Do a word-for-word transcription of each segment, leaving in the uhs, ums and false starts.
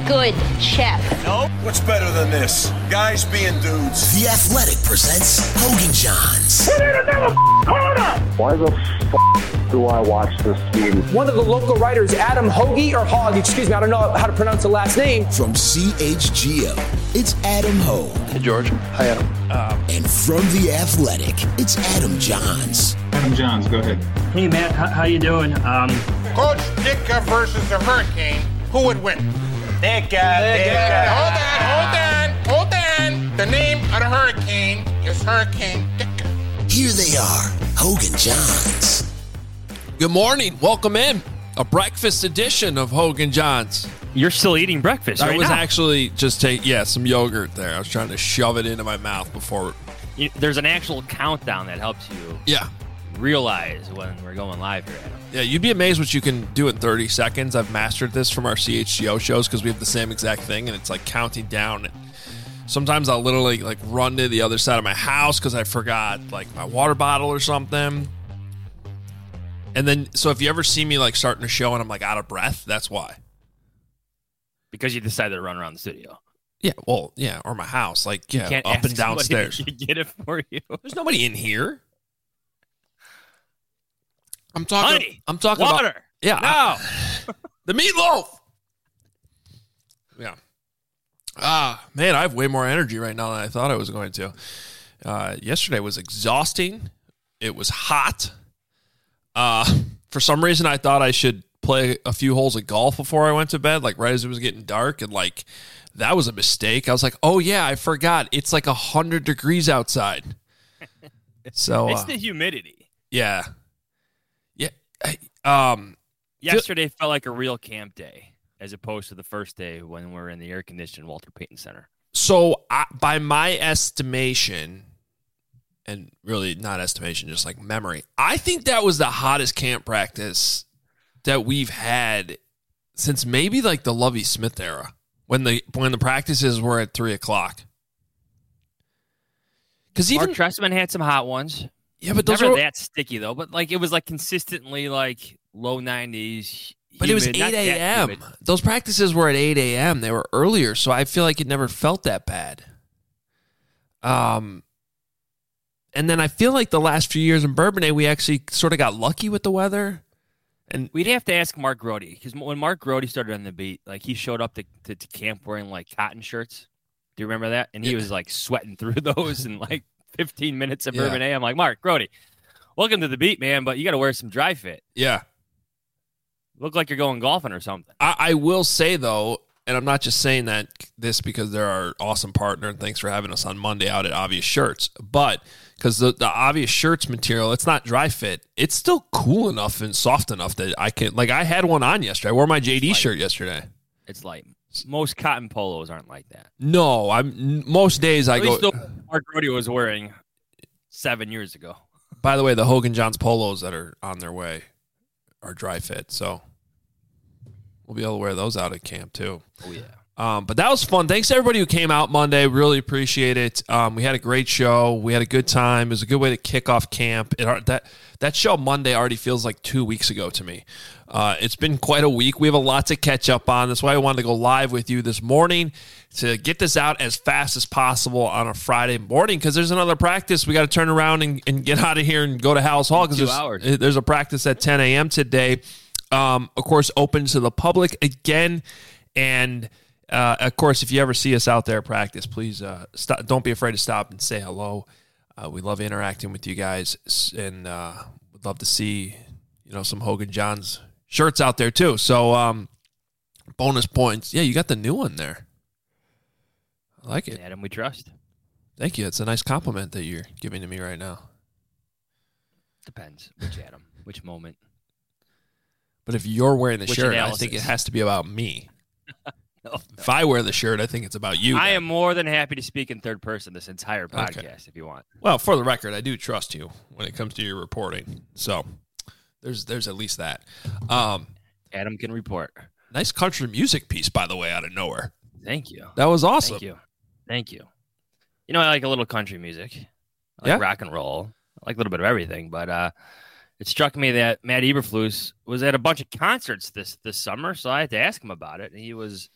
good chef. Nope. What's better than this? Guys being dudes. The Athletic presents Hogan Johns. We need another corner! Why the f*** do I watch this game? One of the local writers, Adam Hoagie, or Hogg, excuse me, I don't know how to pronounce the last name. From C H G O, it's Adam Hogue. Hey, George. Hi, Adam. Um, and from The Athletic, it's Adam Johns. Adam Johns, go ahead. Hey, Matt, how, how you doing? Um, Coach Ditka versus the Hurricane, who would win? Ditka, Ditka. Hold on, hold on, hold on. The name of the Hurricane is Hurricane Ditka. Here they are, Hogan Johns. Good morning. Welcome in. A breakfast edition of Hogan Johns. You're still eating breakfast right I was now. actually just taking, yeah, some yogurt there. I was trying to shove it into my mouth before. You, there's an actual countdown that helps you yeah. realize when we're going live here, Adam. Yeah, you'd be amazed what you can do in thirty seconds. I've mastered this from our C H G O shows because we have the same exact thing, and it's like counting down. Sometimes I'll literally like run to the other side of my house because I forgot like my water bottle or something. And then, so if you ever see me like starting a show and I'm like out of breath, that's why. Because you decided to run around the studio. Yeah, well, yeah, or my house, like yeah, can't up ask and downstairs. To get it for you. There's nobody in here. I'm talking. Honey, I'm talking water. about. Yeah, no, I, the meatloaf. Yeah. Ah, man, I have way more energy right now than I thought I was going to. Uh, yesterday was exhausting. It was hot. Uh, for some reason, I thought I should play a few holes of golf before I went to bed, like right as it was getting dark, and like that was a mistake. I was like, oh yeah, I forgot. It's like a hundred degrees outside. So it's uh, the humidity. Yeah, yeah. I, um, yesterday felt like a real camp day, as opposed to the first day when we were in the air-conditioned Walter Payton Center. So, I, by my estimation, and really not estimation, just like memory, I think that was the hottest camp practice that we've had since maybe like the Lovie Smith era, when the when the practices were at three o'clock. Because even Mark Trestman had some hot ones. Yeah, but those never were that sticky though. But like it was like consistently like low nineties. But humid, it was eight a.m. Those practices were at eight a.m. They were earlier, so I feel like it never felt that bad. Um, and then I feel like the last few years in Bourbonnais, we actually sort of got lucky with the weather. And we'd have to ask Mark Grody, because when Mark Grody started on the beat, like he showed up to, to, to camp wearing like cotton shirts. Do you remember that? And he yeah. was like sweating through those in like fifteen minutes of yeah. Bourbonnais. I'm like, Mark Grody, welcome to the beat, man, but you got to wear some dry fit. Yeah. Look like you're going golfing or something. I, I will say, though, and I'm not just saying that this because they're our awesome partner, and thanks for having us on Monday out at Obvious Shirts, but because the, the Obvious Shirts material, it's not dry fit. It's still cool enough and soft enough that I can, like, I had one on yesterday. I wore my J D shirt yesterday. It's light. Most cotton polos aren't like that. No, I'm most days I At go. Least Mark Grody was wearing seven years ago. By the way, the Hogan Johns polos that are on their way are dry fit, so we'll be able to wear those out at camp too. Oh yeah. Um, but that was fun. Thanks to everybody who came out Monday. Really appreciate it. Um, we had a great show. We had a good time. It was a good way to kick off camp. It, that that show Monday already feels like two weeks ago to me. Uh, it's been quite a week. We have a lot to catch up on. That's why I wanted to go live with you this morning to get this out as fast as possible on a Friday morning, because there's another practice. We got to turn around and, and get out of here and go to Hal's Hall, because there's, there's a practice at ten a.m. today. Um, of course, open to the public again. And Uh, of course, if you ever see us out there practice, please uh, stop, don't be afraid to stop and say hello. Uh, we love interacting with you guys, and uh, would love to see, you know, some Hogan Johns shirts out there too. So, um, bonus points. Yeah, you got the new one there. I like it. Adam, we trust. Thank you. It's a nice compliment that you're giving to me right now. Depends which Adam, which moment. But if you're wearing the which shirt, analysis? I think it has to be about me. No, no. If I wear the shirt, I think it's about you. I then. am more than happy to speak in third person this entire podcast okay. if you want. Well, for the record, I do trust you when it comes to your reporting. So there's there's at least that. Um, Adam can report. Nice country music piece, by the way, out of nowhere. Thank you. That was awesome. Thank you. Thank you. You know, I like a little country music. I like yeah. rock and roll. I like a little bit of everything, but uh, it struck me that Matt Eberflus was at a bunch of concerts this this summer, so I had to ask him about it. And he was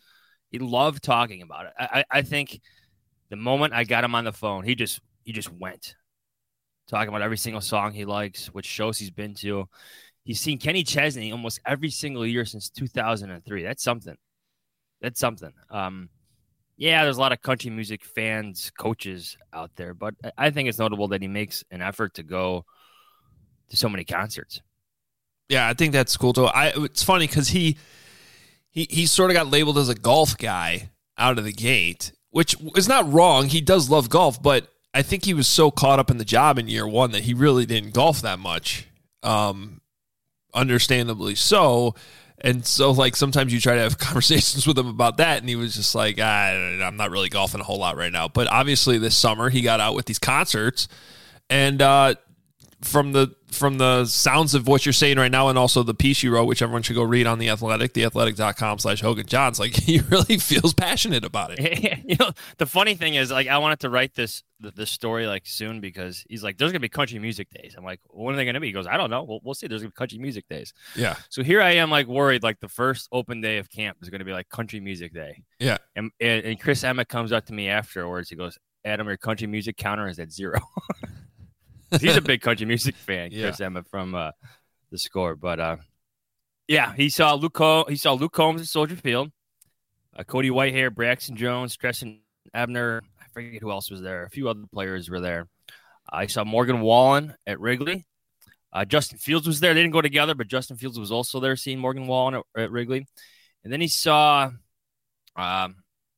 He loved talking about it. I, I think the moment I got him on the phone, he just he just went talking about every single song he likes, which shows he's been to. He's seen Kenny Chesney almost every single year since two thousand three. That's something. That's something. Um, yeah, there's a lot of country music fans, coaches out there, but I think it's notable that he makes an effort to go to so many concerts. Yeah, I think that's cool too. I it's funny because he he he sort of got labeled as a golf guy out of the gate, which is not wrong. He does love golf, but I think he was so caught up in the job in year one that he really didn't golf that much. Um, understandably so. And so, like, sometimes you try to have conversations with him about that, and he was just like, ah, I'm not really golfing a whole lot right now. But obviously this summer he got out with these concerts, and uh, from the from the sounds of what you're saying right now, and also the piece you wrote, which everyone should go read on The Athletic, theathletic.com slash Hogan Johns, like, he really feels passionate about it. You know, the funny thing is, like, I wanted to write this this story like soon because he's like, there's gonna be country music days. I'm like, when are they gonna be? He goes, I don't know. We'll, we'll see. There's gonna be country music days. Yeah. So here I am, like, worried, like the first open day of camp is gonna be like country music day. Yeah. And and, and Chris Emmett comes up to me afterwards. He goes, Adam, your country music counter is at zero. He's a big country music fan, Chris yeah. Emmett from uh, the Score. But uh, yeah, he saw Luke. Col- he saw Luke Combs at Soldier Field. Uh, Cody Whitehair, Braxton Jones, Treston Ebner. I forget who else was there. A few other players were there. Uh, I saw Morgan Wallen at Wrigley. Uh, Justin Fields was there. They didn't go together, but Justin Fields was also there, seeing Morgan Wallen at, at Wrigley. And then he saw um,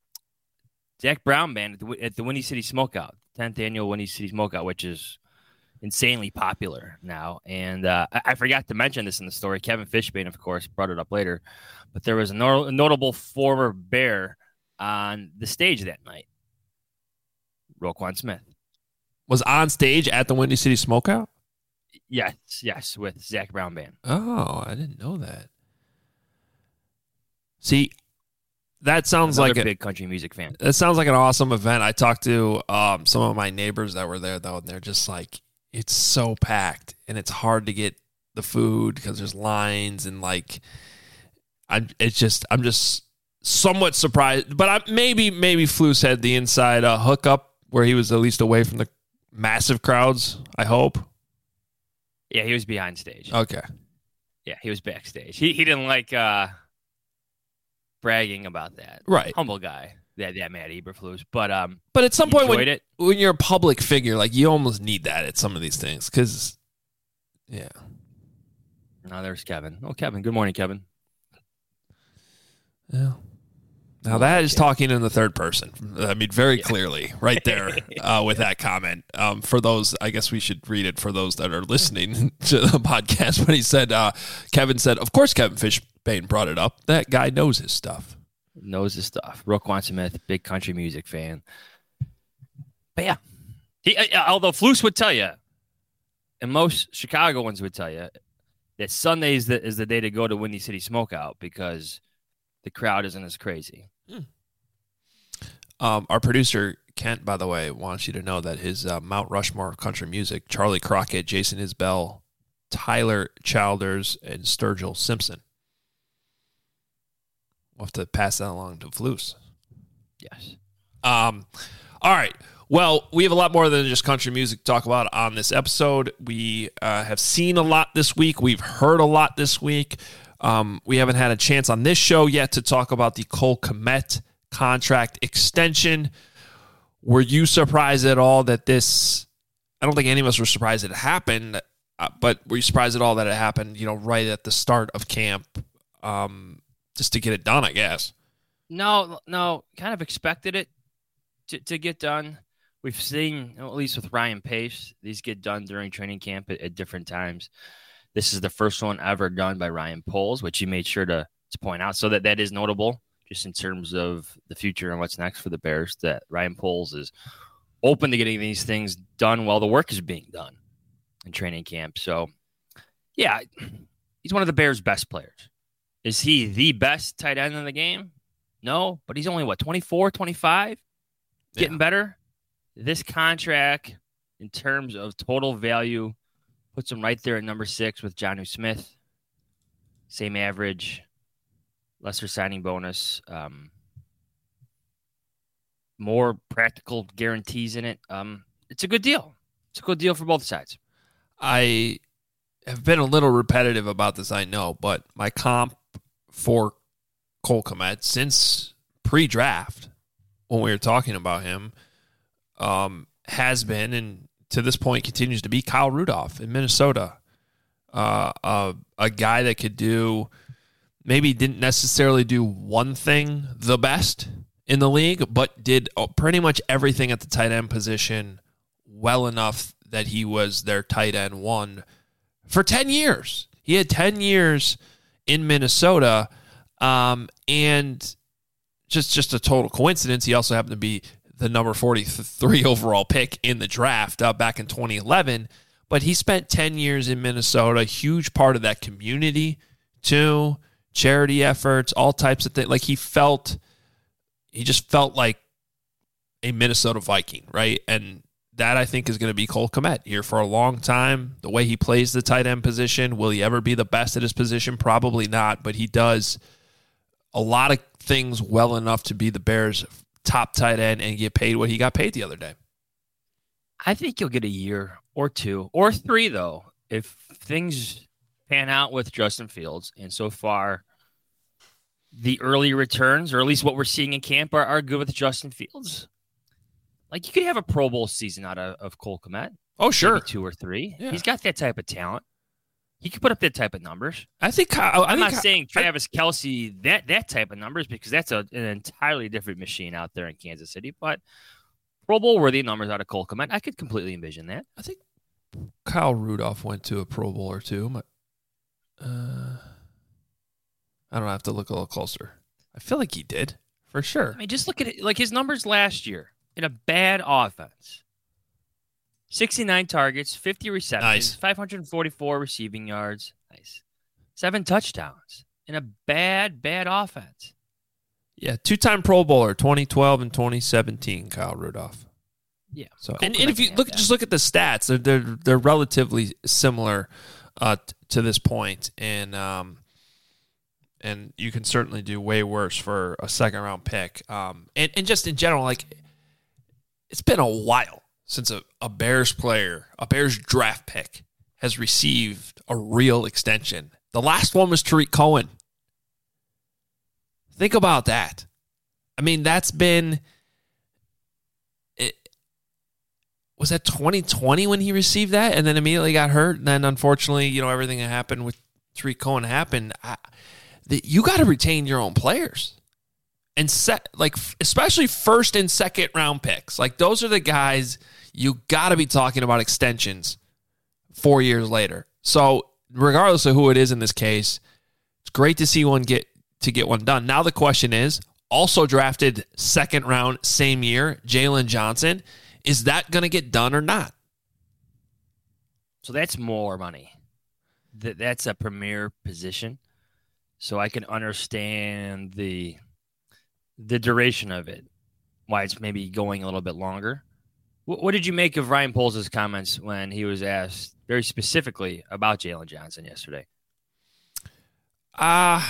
Zach Brown Band at the, at the Windy City Smokeout, tenth annual Windy City Smokeout, which is insanely popular now. And uh, I, I forgot to mention this in the story. Kevin Fishbane, of course, brought it up later. But there was a, no- a notable former Bear on the stage that night. Roquan Smith. Was on stage at the Windy City Smokeout? Yes, yes, with Zach Brown Band. Oh, I didn't know that. See, that sounds Another like a big country music fan. That sounds like an awesome event. I talked to um, some of my neighbors that were there, though, and they're just like, it's so packed, and it's hard to get the food because there's lines, and like, I'm. It's just, I'm just somewhat surprised, but I, maybe, maybe Flus had the inside uh, hookup where he was at least away from the massive crowds. I hope. Yeah, he was behind stage. Okay. Yeah, he was backstage. He he didn't like uh, bragging about that. Right. Humble guy. That that Matt Eberflus, but um, but at some point when it. when you're a public figure, like you almost need that at some of these things, because yeah. Now there's Kevin. Oh, Kevin. Good morning, Kevin. Yeah. Now that is talking in the third person. I mean, very clearly, right there uh, with that comment. Um, for those, I guess we should read it for those that are listening to the podcast. But he said, uh, Kevin said, of course, Kevin Fishbane brought it up. That guy knows his stuff. Knows his stuff. Roquan Smith, big country music fan. But yeah, he, uh, although Flus would tell you, and most Chicagoans would tell you, that Sunday is the, is the day to go to Windy City Smokeout because the crowd isn't as crazy. Hmm. Um, our producer, Kent, by the way, wants you to know that his uh, Mount Rushmore of country music, Charlie Crockett, Jason Isbell, Tyler Childers, and Sturgill Simpson. We'll have to pass that along to Flus. Yes. Um. All right. Well, we have a lot more than just country music to talk about on this episode. We uh, have seen a lot this week. We've heard a lot this week. Um, we haven't had a chance on this show yet to talk about the Cole Kmet contract extension. Were you surprised at all that this, I don't think any of us were surprised it happened, uh, but were you surprised at all that it happened, you know, right at the start of camp, um, just to get it done, I guess? No, no, kind of expected it to, to get done. We've seen, at least with Ryan Pace, these get done during training camp at, at different times. This is the first one ever done by Ryan Poles, which he made sure to, to point out. So that, that is notable, just in terms of the future and what's next for the Bears, that Ryan Poles is open to getting these things done while the work is being done in training camp. So, yeah, he's one of the Bears' best players. Is he the best tight end in the game? No, but he's only, what, twenty-four, twenty-five? Getting yeah. better? This contract, in terms of total value, puts him right there at number six with Jonnu Smith. Same average, lesser signing bonus. Um, more practical guarantees in it. Um, it's a good deal. It's a good deal for both sides. I have been a little repetitive about this, I know, but my comp for Cole Kmet since pre-draft, when we were talking about him, um, has been, and to this point continues to be, Kyle Rudolph in Minnesota. Uh, uh, a guy that could do, maybe didn't necessarily do one thing the best in the league, but did pretty much everything at the tight end position well enough that he was their tight end one for ten years. He had ten years in Minnesota, um, and just, just a total coincidence, he also happened to be the number forty-three overall pick in the draft uh, back in twenty eleven. But he spent ten years in Minnesota, huge part of that community too, charity efforts, all types of things. Like he felt, he just felt like a Minnesota Viking, right? And that, I think, is going to be Cole Kmet here for a long time. The way he plays the tight end position, will he ever be the best at his position? Probably not, but he does a lot of things well enough to be the Bears' top tight end and get paid what he got paid the other day. I think you'll get a year or two or three, though, if things pan out with Justin Fields. And so far, the early returns, or at least what we're seeing in camp, are, are good with Justin Fields. Like, you could have a Pro Bowl season out of, of Cole Kmet. Oh, sure. Maybe two or three. Yeah. He's got that type of talent. He could put up that type of numbers. I think I, I'm think not saying I, Travis Kelce, that that type of numbers, because that's a, an entirely different machine out there in Kansas City. But Pro Bowl worthy numbers out of Cole Kmet, I could completely envision that. I think Kyle Rudolph went to a Pro Bowl or two. But, uh, I don't have to look a little closer. I feel like he did, for sure. I mean, just look at it. Like his numbers last year in a bad offense. sixty-nine targets, fifty receptions, nice. five hundred forty-four receiving yards. Nice. Seven touchdowns in a bad, bad offense. Yeah, two-time Pro Bowler, twenty twelve and twenty seventeen, Kyle Rudolph. Yeah. So, and, and if you look, just look at the stats, they're they're, they're relatively similar uh, t- to this point, and um, and you can certainly do way worse for a second-round pick. Um, and and just in general, like it's been a while since a, a Bears player, a Bears draft pick, has received a real extension. The last one was Tariq Cohen. Think about that. I mean, that's been... It, was that twenty twenty when he received that and then immediately got hurt? And then, unfortunately, you know, everything that happened with Tariq Cohen happened. I, the, you got to retain your own players. And set, like, especially first and second round picks. Like, those are the guys you got to be talking about extensions four years later. So, regardless of who it is in this case, it's great to see one get to get one done. Now the question is, also drafted second round same year, Jalen Johnson. Is that going to get done or not? So that's more money. That that's a premier position. So I can understand the the duration of it, why it's maybe going a little bit longer. What, what did you make of Ryan Poles' comments when he was asked very specifically about Jalen Johnson yesterday? Uh,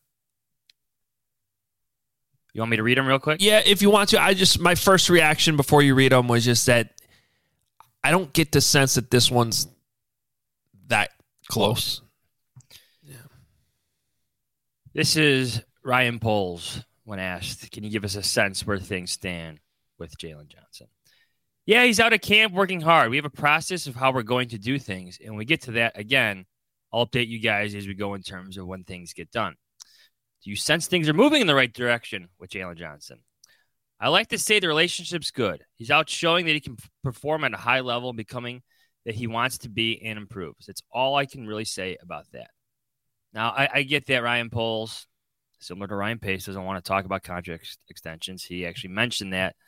you want me to read them real quick? Yeah, if you want to. I just, my first reaction before you read them was just that I don't get the sense that this one's that close. Yeah. This is Ryan Poles when asked, can you give us a sense where things stand with Jalen Johnson? Yeah, he's out of camp working hard. We have a process of how we're going to do things. And when we get to that, again, I'll update you guys as we go in terms of when things get done. Do you sense things are moving in the right direction with Jalen Johnson? I like to say the relationship's good. He's out showing that he can perform at a high level, becoming that he wants to be and improves. That's all I can really say about that. Now, I, I get that Ryan Poles, similar to Ryan Pace, doesn't want to talk about contract extensions. He actually mentioned that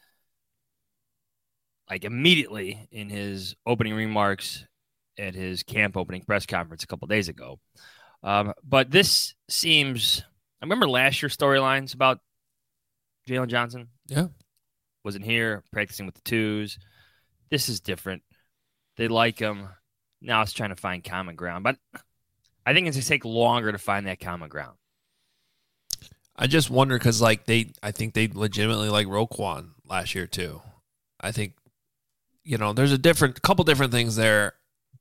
like immediately in his opening remarks at his camp opening press conference a couple of days ago. Um, but this seems, I remember last year's storylines about Jalen Johnson. Yeah. Wasn't here, practicing with the twos. This is different. They like him. Now it's trying to find common ground. But I think it's going to take longer to find that common ground. I just wonder because, like, they, I think they legitimately like Roquan. last year too. I think, you know, there's a different couple different things there.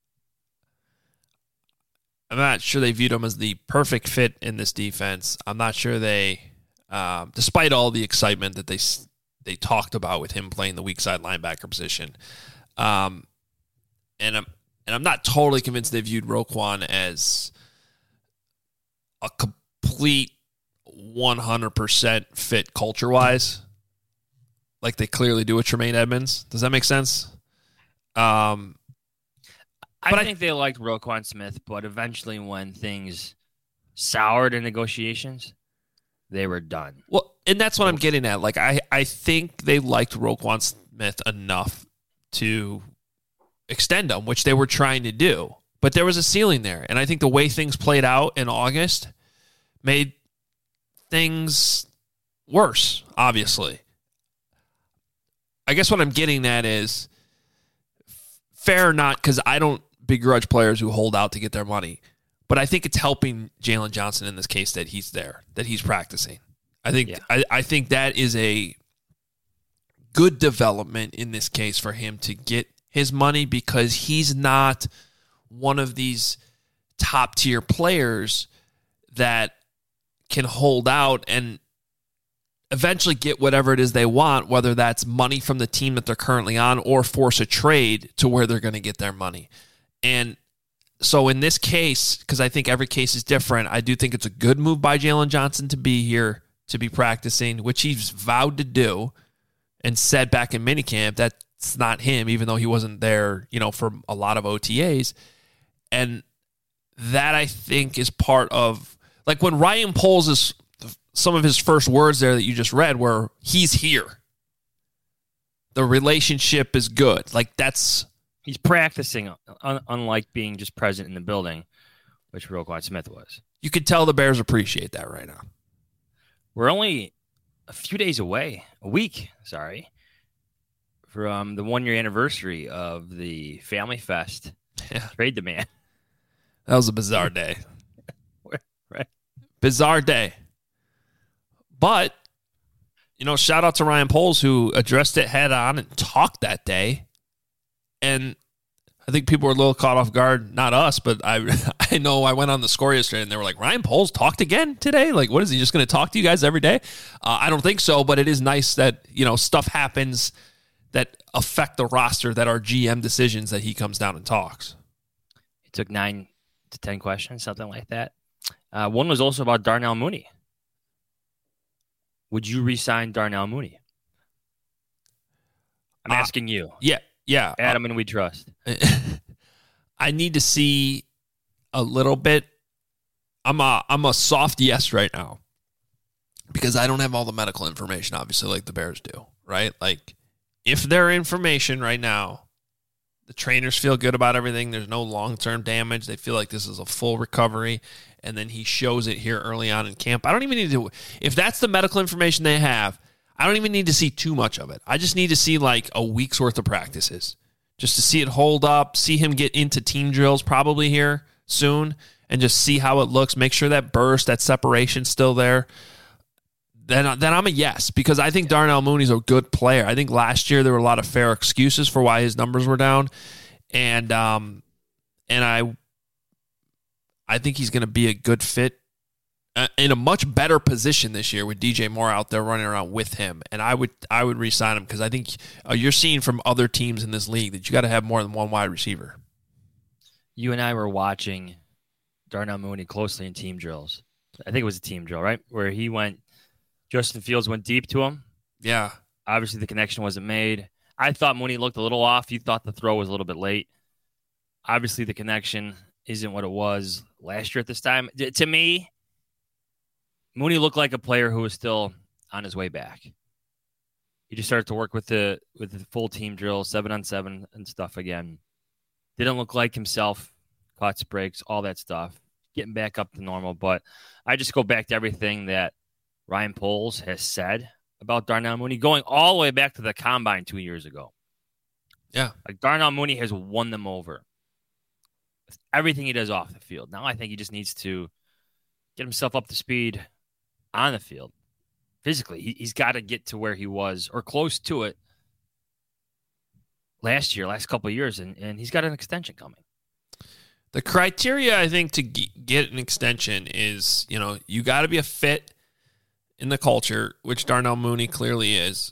I'm not sure they viewed him as the perfect fit in this defense. I'm not sure they, um, despite all the excitement that they they talked about with him playing the weak side linebacker position, um, and I'm and I'm not totally convinced they viewed Roquan as a complete one hundred percent fit culture wise, like they clearly do with Tremaine Edmonds. Does that make sense? Um. I But I- think they liked Roquan Smith, but eventually when things soured in negotiations, they were done. Well, and that's what I'm getting at. Like, I, I think they liked Roquan Smith enough to extend him, which they were trying to do. But there was a ceiling there. And I think the way things played out in August made things worse, obviously. I guess what I'm getting at is fair or not, because I don't begrudge players who hold out to get their money. But I think it's helping Jalen Johnson in this case that he's there, that he's practicing. I think Yeah. I, I think that is a good development in this case for him to get his money, because he's not one of these top tier players that can hold out and eventually get whatever it is they want, whether that's money from the team that they're currently on or force a trade to where they're going to get their money. And so in this case, because I think every case is different, I do think it's a good move by Jalen Johnson to be here, to be practicing, which he's vowed to do and said back in minicamp that's not him, even though he wasn't there, you know, for a lot of O T As. And that, I think, is part of, like when Ryan Poles is, some of his first words there that you just read were, he's here. The relationship is good. Like that's... He's practicing, un- unlike being just present in the building, which Roquan Smith was. You could tell the Bears appreciate that right now. We're only a few days away, a week, sorry, from the one-year anniversary of the Family Fest Yeah. trade demand. That was a bizarre day. Right. Bizarre day. But, you know, shout out to Ryan Poles, who addressed it head on and talked that day. And I think people were a little caught off guard. Not us, but I I know I went on the score yesterday and they were like, Ryan Poles talked again today? Like, what is he just going to talk to you guys every day? Uh, I don't think so, but it is nice that, you know, stuff happens that affect the roster that are G M decisions that he comes down and talks. He took nine to ten questions, something like that. Uh, one was also about Darnell Mooney. Would you re-sign Darnell Mooney? I'm Uh, asking you. Yeah, yeah. Adam and we trust. I need to see a little bit. I'm a I'm a soft yes right now because I don't have all the medical information, obviously, like the Bears do, right? Like, if their information right now, the trainers feel good about everything, there's no long-term damage, they feel like this is a full recovery, and then he shows it here early on in camp. I don't even need to, if that's the medical information they have, I don't even need to see too much of it. I just need to see like a week's worth of practices just to see it hold up, see him get into team drills probably here soon, and just see how it looks, make sure that burst, that separation's still there. Then, then I'm a yes, because I think Darnell Mooney's a good player. I think last year there were a lot of fair excuses for why his numbers were down, and um, and I, I think he's going to be a good fit uh, in a much better position this year with D J Moore out there running around with him. And I would I would re-sign him because I think uh, you're seeing from other teams in this league that you got to have more than one wide receiver. You and I were watching Darnell Mooney closely in team drills. I think it was a team drill, right? Where he went, Justin Fields went deep to him. Yeah. Obviously, the connection wasn't made. I thought Mooney looked a little off. You thought the throw was a little bit late. Obviously, the connection isn't what it was last year at this time. D- to me, Mooney looked like a player who was still on his way back. He just started to work with the with the full team drill, seven on seven and stuff again. Didn't look like himself. Cuts, breaks, all that stuff. Getting back up to normal. But I just go back to everything that Ryan Poles has said about Darnell Mooney, going all the way back to the combine two years ago. Yeah. Like Darnell Mooney has won them over with everything he does off the field. Now I think he just needs to get himself up to speed on the field. physically. He, he's got to get to where he was or close to it last year, last couple of years, and, and he's got an extension coming. The criteria, I think, to get an extension is, you know, you got to be a fit in the culture, which Darnell Mooney clearly is.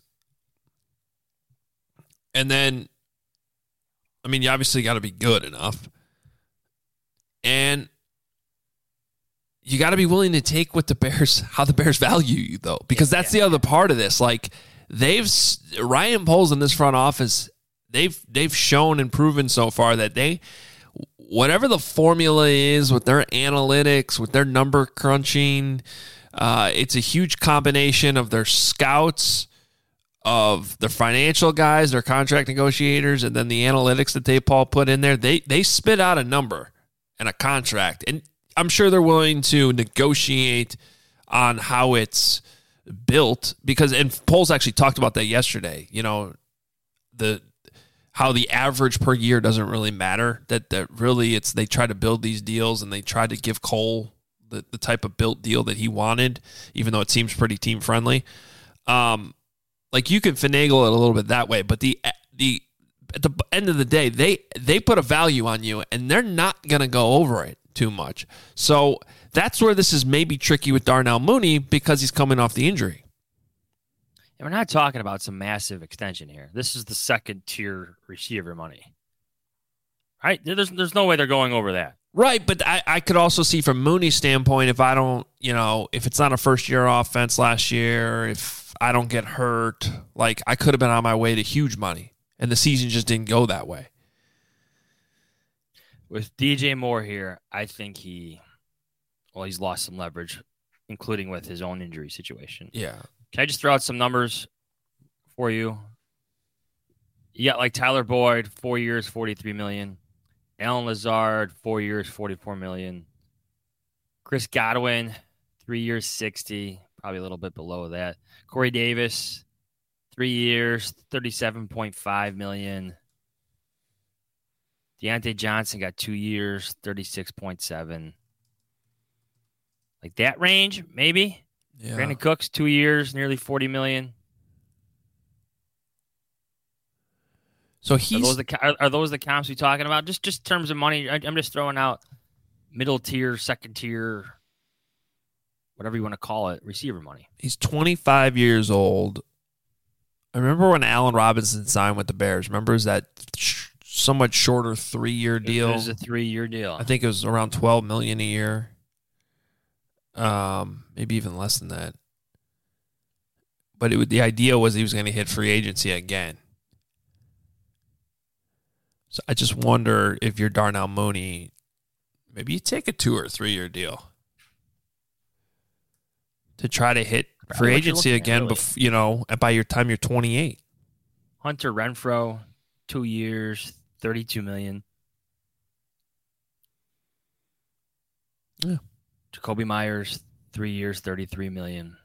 And then, I mean, you obviously got to be good enough. And you got to be willing to take what the Bears, how the Bears value you, though, because that's the other part of this. Like, they've, Ryan Poles in this front office, they've, they've shown and proven so far that they, whatever the formula is with their analytics, with their number crunching, uh, it's a huge combination of their scouts, of their financial guys, their contract negotiators, and then the analytics that they Paul put in there. They they spit out a number and a contract, and I'm sure they're willing to negotiate on how it's built because, and Poles actually talked about that yesterday. You know, the how the average per year doesn't really matter. That that really it's they try to build these deals and they try to give Cole the the type of built deal that he wanted, even though it seems pretty team friendly. Um. Like you can finagle it a little bit that way, but the the at the end of the day, they they put a value on you, and they're not going to go over it too much. So that's where this is maybe tricky with Darnell Mooney because he's coming off the injury. And we're not talking about some massive extension here. This is the second tier receiver money, right? There's there's no way they're going over that. Right, but I, I could also see from Mooney's standpoint, if I don't, you know, if it's not a first-year offense last year, if I don't get hurt, like I could have been on my way to huge money, and the season just didn't go that way. With D J Moore here, I think he, well, he's lost some leverage, including with his own injury situation. Yeah. Can I just throw out some numbers for you? You got like Tyler Boyd, four years, forty-three million dollars. Allen Lazard, four years, forty-four million dollars. Chris Godwin, three years, sixty, probably a little bit below that. Corey Davis, three years, thirty-seven point five million dollars. Deontay Johnson got two years, thirty-six point seven. Like that range, maybe. Yeah. Brandon Cooks, two years, nearly forty million dollars. So he's are those the are, are those the comps we're talking about? Just just terms of money. I, I'm just throwing out middle tier, second tier, whatever you want to call it, receiver money. He's twenty-five years old. I remember when Allen Robinson signed with the Bears. Remember, is that sh- somewhat shorter three-year deal? It was a three-year deal. I think it was around twelve million dollars a year. Um, maybe even less than that. But it would, the idea was he was going to hit free agency again. So I just wonder if you're Darnell Mooney, maybe you take a two or three year deal to try to hit free agency again. Really. Bef- you know, by your time you're twenty-eight. Hunter Renfrow, two years, thirty-two million. Yeah. Jacoby Myers, three years, thirty-three million.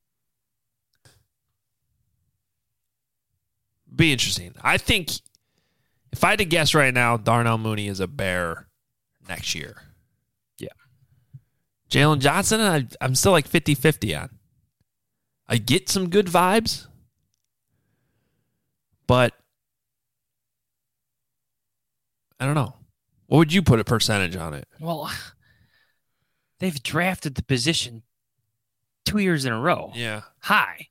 Be interesting. I think. If I had to guess right now, Darnell Mooney is a Bear next year. Yeah. Jalen Johnson, I, I'm still like fifty-fifty on. I get some good vibes, but I don't know. What would you put a percentage on it? Well, they've drafted the position two years in a row. Yeah. High.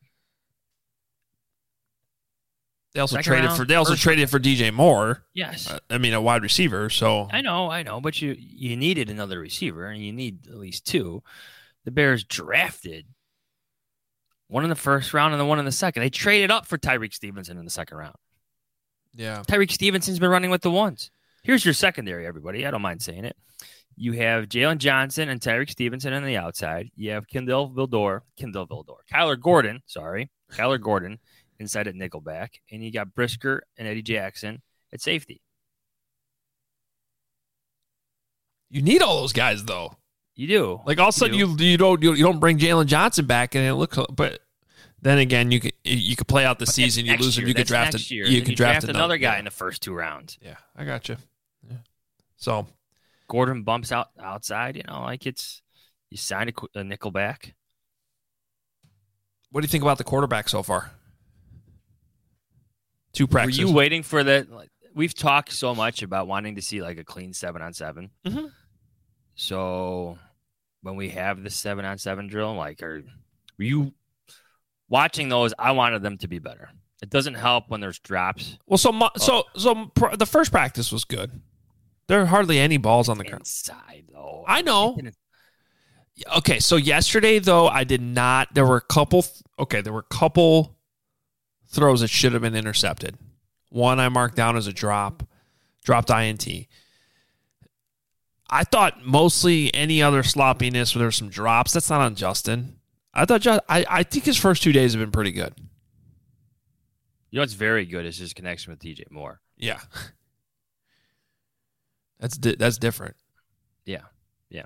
They also Second traded round, for they also first traded for D J Moore. Yes. Uh, I mean, a wide receiver, so I know, I know, but you you needed another receiver, and you need at least two. The Bears drafted one in the first round and the one in the second. They traded up for Tyreek Stevenson in the second round. yeah. Tyreek Stevenson's been running with the ones. Here's your secondary, everybody. I don't mind saying it. You have Jalen Johnson and Tyreek Stevenson on the outside. You have Kendall Vildor, Kendall Vildor, Kyler Gordon, sorry, Kyler Gordon inside at nickelback, and you got Brisker and Eddie Jackson at safety. You need all those guys though. You do. Like all of a sudden you you don't you, you don't bring Jalen Johnson back and it look but then again you could you could play out the But season, you next lose him, year. you could That's draft next a, year. you Then could draft, draft another guy yeah. in the first two rounds. Yeah, I got you. Yeah. So Gordon bumps out outside, you know, like it's you sign a, a nickelback. What do you think about the quarterback so far? Two practices. Were you waiting for that? Like, we've talked so much about wanting to see like a clean seven on seven. Mm-hmm. So when we have the seven on seven drill, like, are were you watching those? I wanted them to be better. It doesn't help when there's drops. Well, so so so pr- the first practice was good. There are hardly any balls on the ground. Inside though, I know. Okay, so yesterday though, I did not. There were a couple. Okay, there were a couple throws that should have been intercepted. One I marked down as a drop, dropped I N T. I thought mostly any other sloppiness where there were some drops. That's not on Justin. I thought Just, I I think his first two days have been pretty good. You know what's very good is his connection with D J Moore. Yeah, that's di- that's different. Yeah, yeah.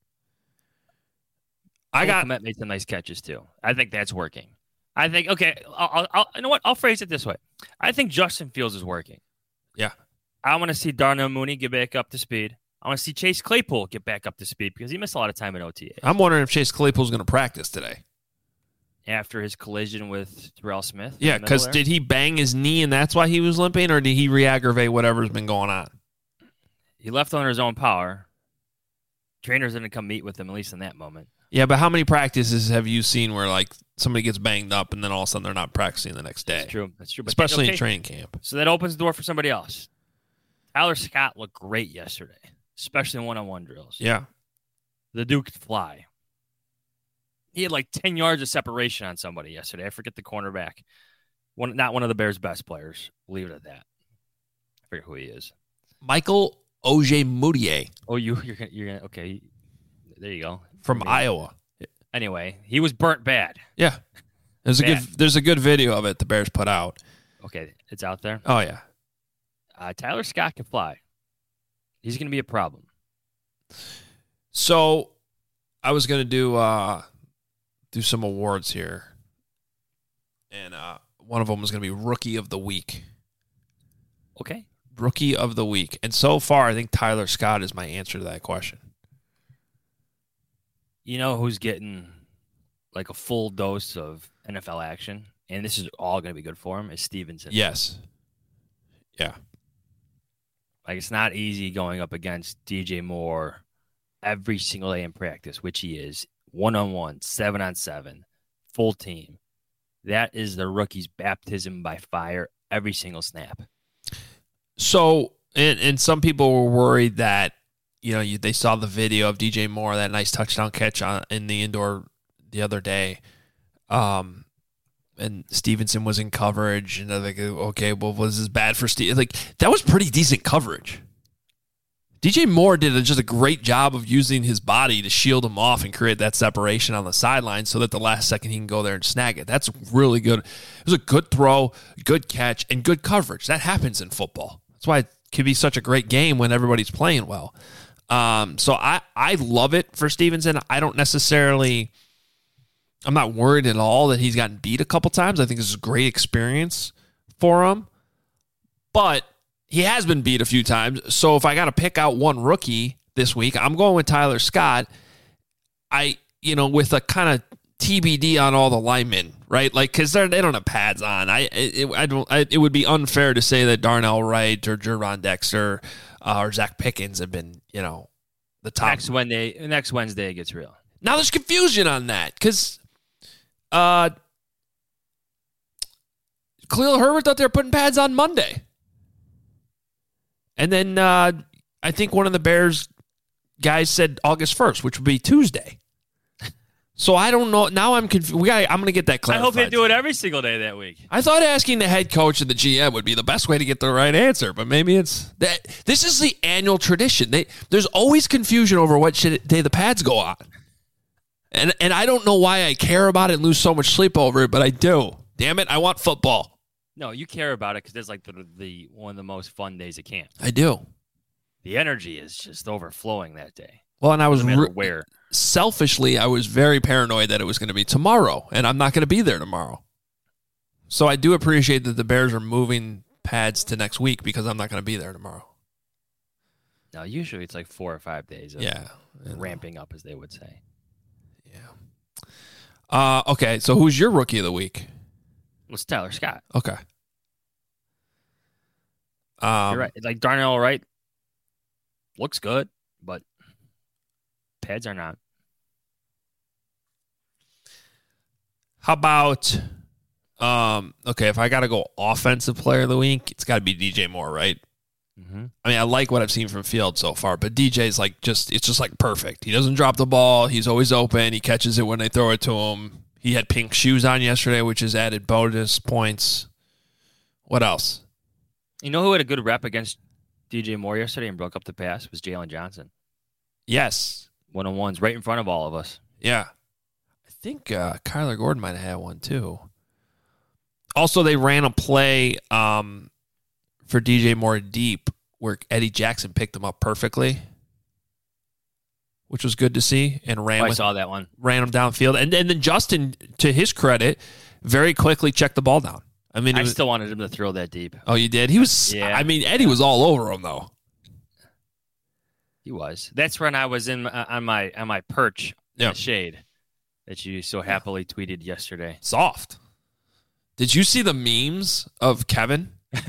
I got Komet made some nice catches too. I think that's working. I think okay. I'll, I'll, you know what? I'll phrase it this way. I think Justin Fields is working. Yeah. I want to see Darnell Mooney get back up to speed. I want to see Chase Claypool get back up to speed because he missed a lot of time in O T A. I'm wondering if Chase Claypool's going to practice today After his collision with Terrell Smith. Yeah, because did he bang his knee and that's why he was limping, or did he re-aggravate whatever's been going on? He left under his own power. Trainers didn't come meet with him, at least in that moment. Yeah, but how many practices have you seen where like somebody gets banged up and then all of a sudden they're not practicing the next day? That's true. That's true. But Especially okay. in training camp. So that opens the door for somebody else. Tyler Scott looked great yesterday, especially in one-on-one drills. Yeah. The Duke could fly. He had like ten yards of separation on somebody yesterday. I forget the cornerback. One, not one of the Bears' best players. We'll leave it at that. I forget who he is. Michael Ojemudia. Oh, you, you're gonna, you're gonna, okay. There you go. From Maybe. Iowa. Anyway, he was burnt bad. Yeah. There's a Bad. good there's a good video of it the Bears put out. Okay, it's out there. Oh, yeah. Uh, Tyler Scott can fly. He's going to be a problem. So I was going to do uh, do some awards here. And uh, one of them was going to be Rookie of the Week. Okay. Rookie of the Week. And so far, I think Tyler Scott is my answer to that question. You know who's getting like a full dose of N F L action, and this is all going to be good for him, is Stevenson. Yes. Yeah. Like, it's not easy going up against D J Moore every single day in practice, which he is, one-on-one, seven-on-seven, full team. That is the rookie's baptism by fire every single snap. So, and, and some people were worried that, you know, you, they saw the video of D J Moore, that nice touchdown catch on in the indoor the other day. Um, and Stevenson was in coverage, and they're like, okay, well, was this bad for Steve? Like, that was pretty decent coverage. D J Moore did a, just a great job of using his body to shield him off and create that separation on the sideline so that the last second he can go there and snag it. That's really good. It was a good throw, good catch, and good coverage. That happens in football. That's why it can be such a great game when everybody's playing well. Um, so I, I love it for Stevenson. I don't necessarily, I'm not worried at all that he's gotten beat a couple times. I think this is a great experience for him. But he has been beat a few times. So if I got to pick out one rookie this week, I'm going with Tyler Scott. I, you know, with a kind of T B D on all the linemen, right? Like, because they don't have pads on. I, it, I don't. I, it would be unfair to say that Darnell Wright or Jerron Dexter uh, or Zach Pickens have been, you know, the top. Next Wednesday, next Wednesday it gets real. Now there's confusion on that because uh, Khalil Herbert thought they were putting pads on Monday. And then uh, I think one of the Bears guys said August first, which would be Tuesday. So I don't know. Now I'm confused. We got. I'm going to get that clarified. I hope they do it every single day that week. I thought asking the head coach and the G M would be the best way to get the right answer, but maybe it's that. This is the annual tradition. They, there's always confusion over what day the pads go on, and and I don't know why I care about it and lose so much sleep over it, but I do. Damn it, I want football. No, you care about it because it's like the, the one of the most fun days at camp. I do. The energy is just overflowing that day. Well, and I was no matter re- where. Selfishly, I was very paranoid that it was going to be tomorrow, and I'm not going to be there tomorrow. So I do appreciate that the Bears are moving pads to next week because I'm not going to be there tomorrow. No, usually it's like four or five days of yeah, ramping up, as they would say. Yeah. Uh, okay, so who's your rookie of the week? It's Tyler Scott. Okay. Um, You're right. Like Darnell Wright looks good, but pads are not. How about, um, okay, if I got to go offensive player of the week, it's got to be D J Moore, right? Mm-hmm. I mean, I like what I've seen from Field so far, but D J's like just, it's just like perfect. He doesn't drop the ball. He's always open. He catches it when they throw it to him. He had pink shoes on yesterday, which is added bonus points. What else? You know who had a good rep against D J Moore yesterday and broke up the pass was Jalen Johnson. Yes. One-on-ones right in front of all of us. Yeah. I think uh, Kyler Gordon might have had one too. Also, they ran a play um, for D J Moore deep where Eddie Jackson picked him up perfectly, which was good to see, and ran Oh, I with, saw that one. ran him downfield. And, and then Justin, to his credit, very quickly checked the ball down. I mean, it I was, still wanted him to throw that deep. oh, you did? He was. Yeah. I mean, Eddie was all over him though. He was. That's when I was in uh, on my on my perch Yeah. in the shade that you so happily tweeted yesterday. Soft. Did you see the memes of Kevin?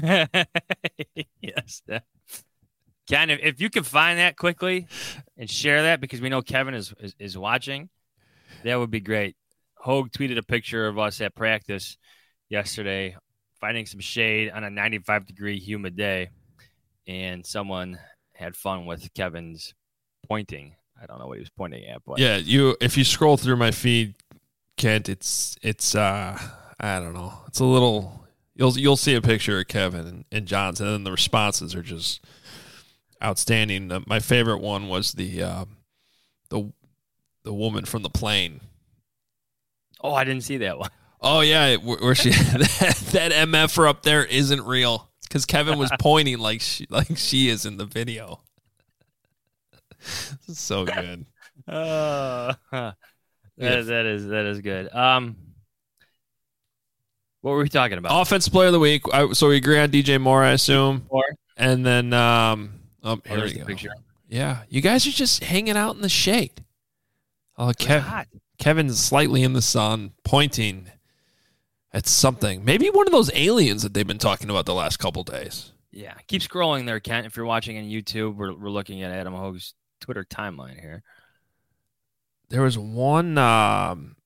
Yes. Ken, if, if you can find that quickly and share that, because we know Kevin is, is, is watching, that would be great. Hogue tweeted a picture of us at practice yesterday, finding some shade on a ninety-five degree humid day, and someone had fun with Kevin's pointing. I don't know what he was pointing at, but Yeah, you. If you scroll through my feed, Kent, it's it's uh I don't know. It's a little. You'll you'll see a picture of Kevin and, and Johnson, and the responses are just outstanding. Uh, my favorite one was the uh, the the woman from the plane. Oh, I didn't see that one. Oh yeah, where, where she that, that M F-er up there isn't real because Kevin was pointing like she like she is in the video. This is so good. Uh, that, that is that is good. Um, what were we talking about? Offense player of the week. I, so we agree on D J Moore, I assume. Moore? And then, um, oh, Oh, here there's we the go. picture. Yeah, you guys are just hanging out in the shade. Oh, It's Kev, hot. Kevin's slightly in the sun, pointing at something. Maybe one of those aliens that they've been talking about the last couple days. Yeah, keep scrolling there, Kent. If you're watching on YouTube, we're we're looking at Adam Hogue's Twitter timeline here. There was one. Um,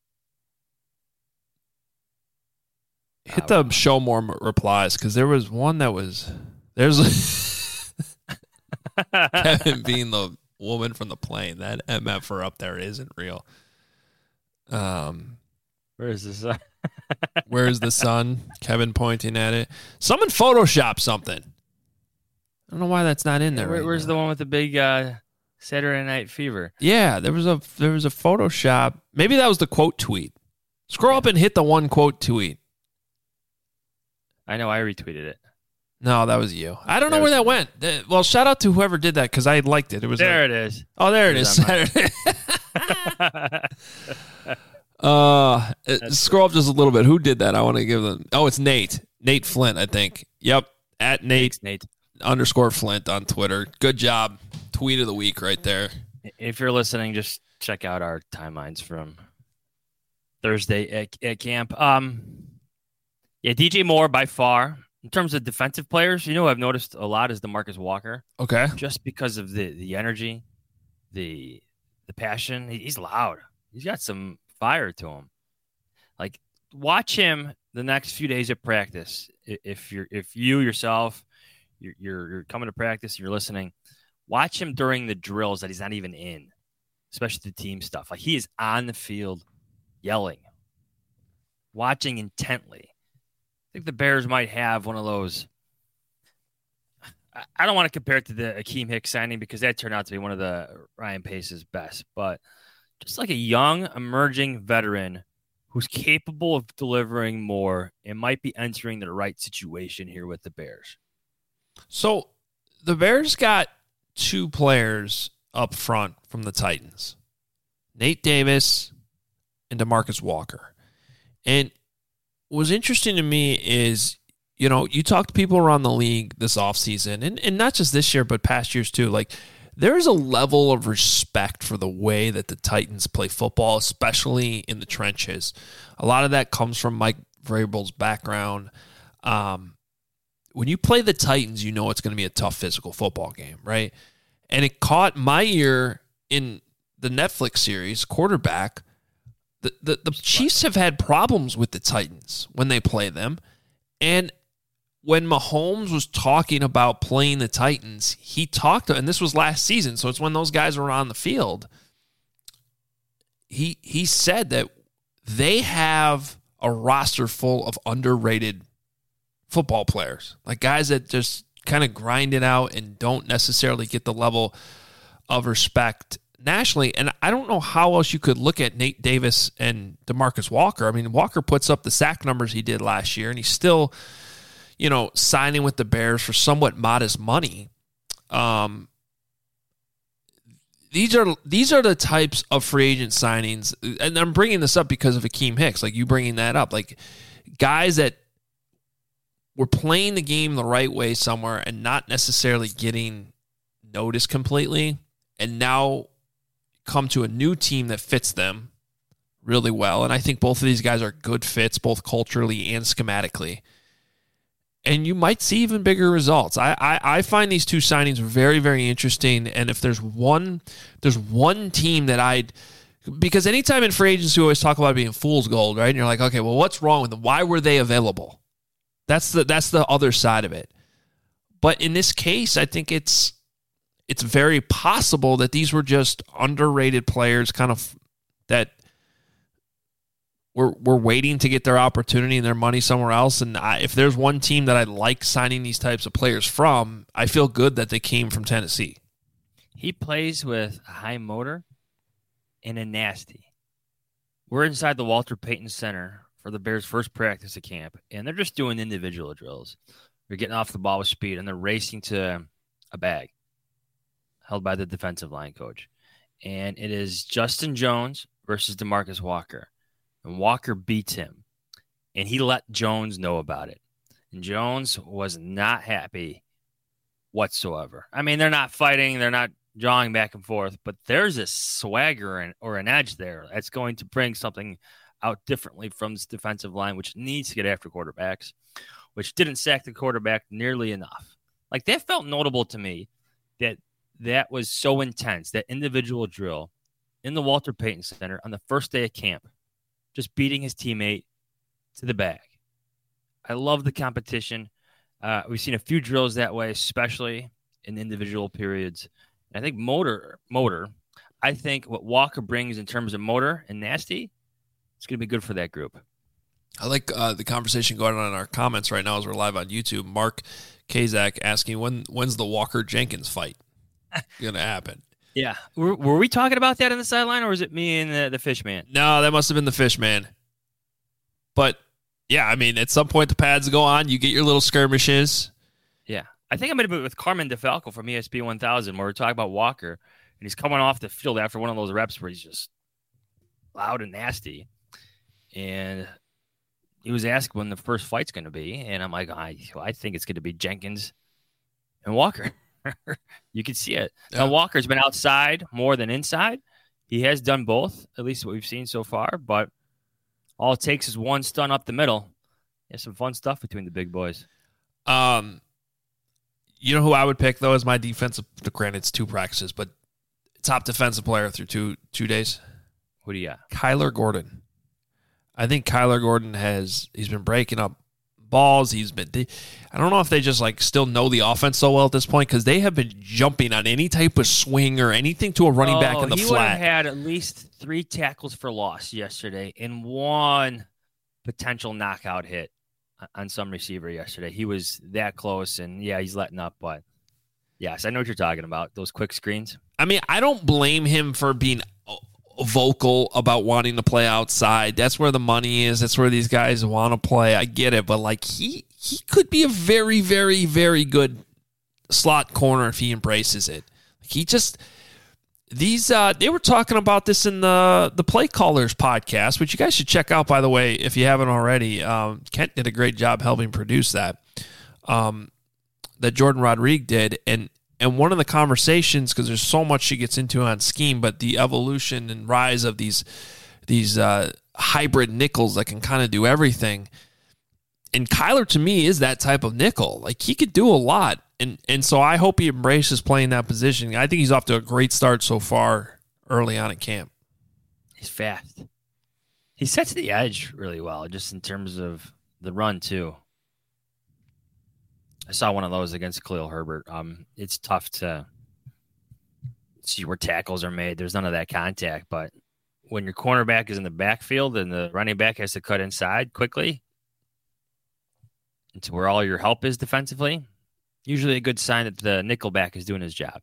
hit the show more m- replies because there was one that was there's Kevin being the woman from the plane. That M F-er up there isn't real. Um, Where is this? Uh, where's the sun? Kevin pointing at it. Someone photoshopped something. I don't know why that's not in there. Where, right where's now. the one with the big uh, Saturday Night Fever? Yeah, there was a there was a Photoshop. Maybe that was the quote tweet. Scroll up and hit the one quote tweet. I know I retweeted it. No, that was you. I don't know There where was- that went. Uh, Well, shout out to whoever did that because I liked it. It was There like- it is. oh, there it It is. was on Saturday. uh, uh, scroll up just a little bit. Who did that? I want to give them. Oh, it's Nate. Nate Flint, I think. Yep, at Nate, Thanks, Nate. underscore Flint on Twitter. Good job. Tweet of the week right there. If you're listening, just check out our timelines from Thursday at, at camp. Um, yeah, D J Moore by far. In terms of defensive players, you know, I've noticed a lot is DeMarcus Walker, Okay. just because of the the energy, the the passion. He, he's loud. He's got some fire to him. Like, watch him the next few days of practice. I- If you're if you yourself you're you're, you're coming to practice, you're listening. Watch him during the drills that he's not even in, especially the team stuff. Like, he is on the field yelling, watching intently. I think the Bears might have one of those. I- I don't want to compare it to the Akeem Hicks signing because that turned out to be one of the Ryan Pace's best, but just like a young, emerging veteran who's capable of delivering more and might be entering the right situation here with the Bears. So the Bears got two players up front from the Titans, Nate Davis and DeMarcus Walker. And what was interesting to me is, you know, you talk to people around the league this offseason, and, and not just this year, but past years too. Like, there is a level of respect for the way that the Titans play football, especially in the trenches. A lot of that comes from Mike Vrabel's background. Um, when you play the Titans, you know it's going to be a tough physical football game, right? And it caught my ear in the Netflix series, Quarterback. The, the, the Chiefs have had problems with the Titans when they play them. And when Mahomes was talking about playing the Titans, he talked, and this was last season, so it's when those guys were on the field. He he said that they have a roster full of underrated football players, like guys that just kind of grind it out and don't necessarily get the level of respect nationally. And I don't know how else you could look at Nate Davis and DeMarcus Walker. I mean, Walker puts up the sack numbers he did last year, and he's still, you know, signing with the Bears for somewhat modest money. Um, these are these are the types of free agent signings, and I'm bringing this up because of Akeem Hicks, like you bringing that up, like guys that were playing the game the right way somewhere and not necessarily getting noticed completely, and now come to a new team that fits them really well. And I think both of these guys are good fits, both culturally and schematically. And you might see even bigger results. I, I, I find these two signings very, very interesting. And if there's one, there's one team that I'd, because anytime in free agency, we always talk about being fool's gold, right? And you're like, okay, well, what's wrong with them? Why were they available? That's the that's the other side of it. But in this case, I think it's it's very possible that these were just underrated players, kind of that were were waiting to get their opportunity and their money somewhere else. And I, if there's one team that I like signing these types of players from, I feel good that they came from Tennessee. He plays with a high motor and a nasty. We're inside the Walter Payton Center for the Bears' first practice at camp, and they're just doing individual drills. They're getting off the ball with speed, and they're racing to a bag held by the defensive line coach. And it is Justin Jones versus DeMarcus Walker. And Walker beats him, and he let Jones know about it. And Jones was not happy whatsoever. I mean, they're not fighting. They're not jawing back and forth, but there's a swagger or an edge there that's going to bring something out differently from this defensive line, which needs to get after quarterbacks, which didn't sack the quarterback nearly enough. Like, that felt notable to me that that was so intense, that individual drill in the Walter Payton Center on the first day of camp, just beating his teammate to the bag. I love the competition. Uh, we've seen a few drills that way, especially in individual periods. And I think motor, motor, I think what Walker brings in terms of motor and nasty, it's going to be good for that group. I like uh, the conversation going on in our comments right now as we're live on YouTube. Mark Kazak asking, when when's the Walker-Jenkins fight going to happen? Yeah. Were, were we talking about that on the sideline, or was it me and the, the fish man? No, that must have been the fish man. But, yeah, I mean, at some point the pads go on. You get your little skirmishes. Yeah. I think I might have been with Carmen DeFalco from E S P one thousand where we're talking about Walker, and he's coming off the field after one of those reps where he's just loud and nasty. And he was asked when the first fight's going to be, and I'm like, I, I think it's going to be Jenkins and Walker. You can see it. Yeah. Now, Walker's been outside more than inside. He has done both, at least what we've seen so far, but all it takes is one stun up the middle. There's some fun stuff between the big boys. Um, you know who I would pick, though, as my defensive, granted, it's two practices, but top defensive player through two two days? Who do you got? Kyler Gordon. I think Kyler Gordon has, he's been breaking up balls. He's been, they, I don't know if they just like still know the offense so well at this point, because they have been jumping on any type of swing or anything to a running oh, back in the he flat. He would have had at least three tackles for loss yesterday and one potential knockout hit on some receiver yesterday. He was that close, and yeah, he's letting up, but yes, I know what you're talking about, those quick screens. I mean, I don't blame him for being vocal about wanting to play outside. That's where the money is. That's where these guys want to play. I get it, but like he he could be a very, very, very good slot corner if he embraces it. He just these uh, they were talking about this in the the Play Callers podcast, which you guys should check out, by the way, if you haven't already. Um, Kent did a great job helping produce that. Um, that Jordan Rodriguez did, and And one of the conversations, because there's so much she gets into on scheme, but the evolution and rise of these these uh, hybrid nickels that can kind of do everything. And Kyler, to me, is that type of nickel. Like, he could do a lot. And and so I hope he embraces playing that position. I think he's off to a great start so far early on in camp. He's fast. He sets the edge really well, just in terms of the run, too. I saw one of those against Khalil Herbert. Um, it's tough to see where tackles are made. There's none of that contact. But when your cornerback is in the backfield and the running back has to cut inside quickly into where all your help is defensively, usually a good sign that the nickelback is doing his job.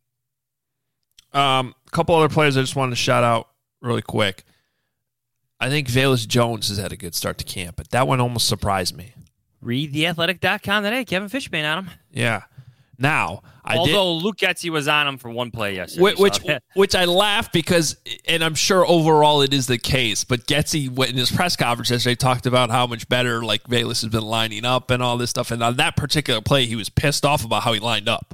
Um, a couple other players I just wanted to shout out really quick. I think Velus Jones has had a good start to camp, but that one almost surprised me. Read the athletic dot com today. Kevin Fishman on him. Yeah. Now, I Although did, Luke Getsy was on him for one play yesterday. Which, which, which I laugh because, and I'm sure overall it is the case, but Getsy in his press conference yesterday talked about how much better like Velus has been lining up and all this stuff. And on that particular play, he was pissed off about how he lined up.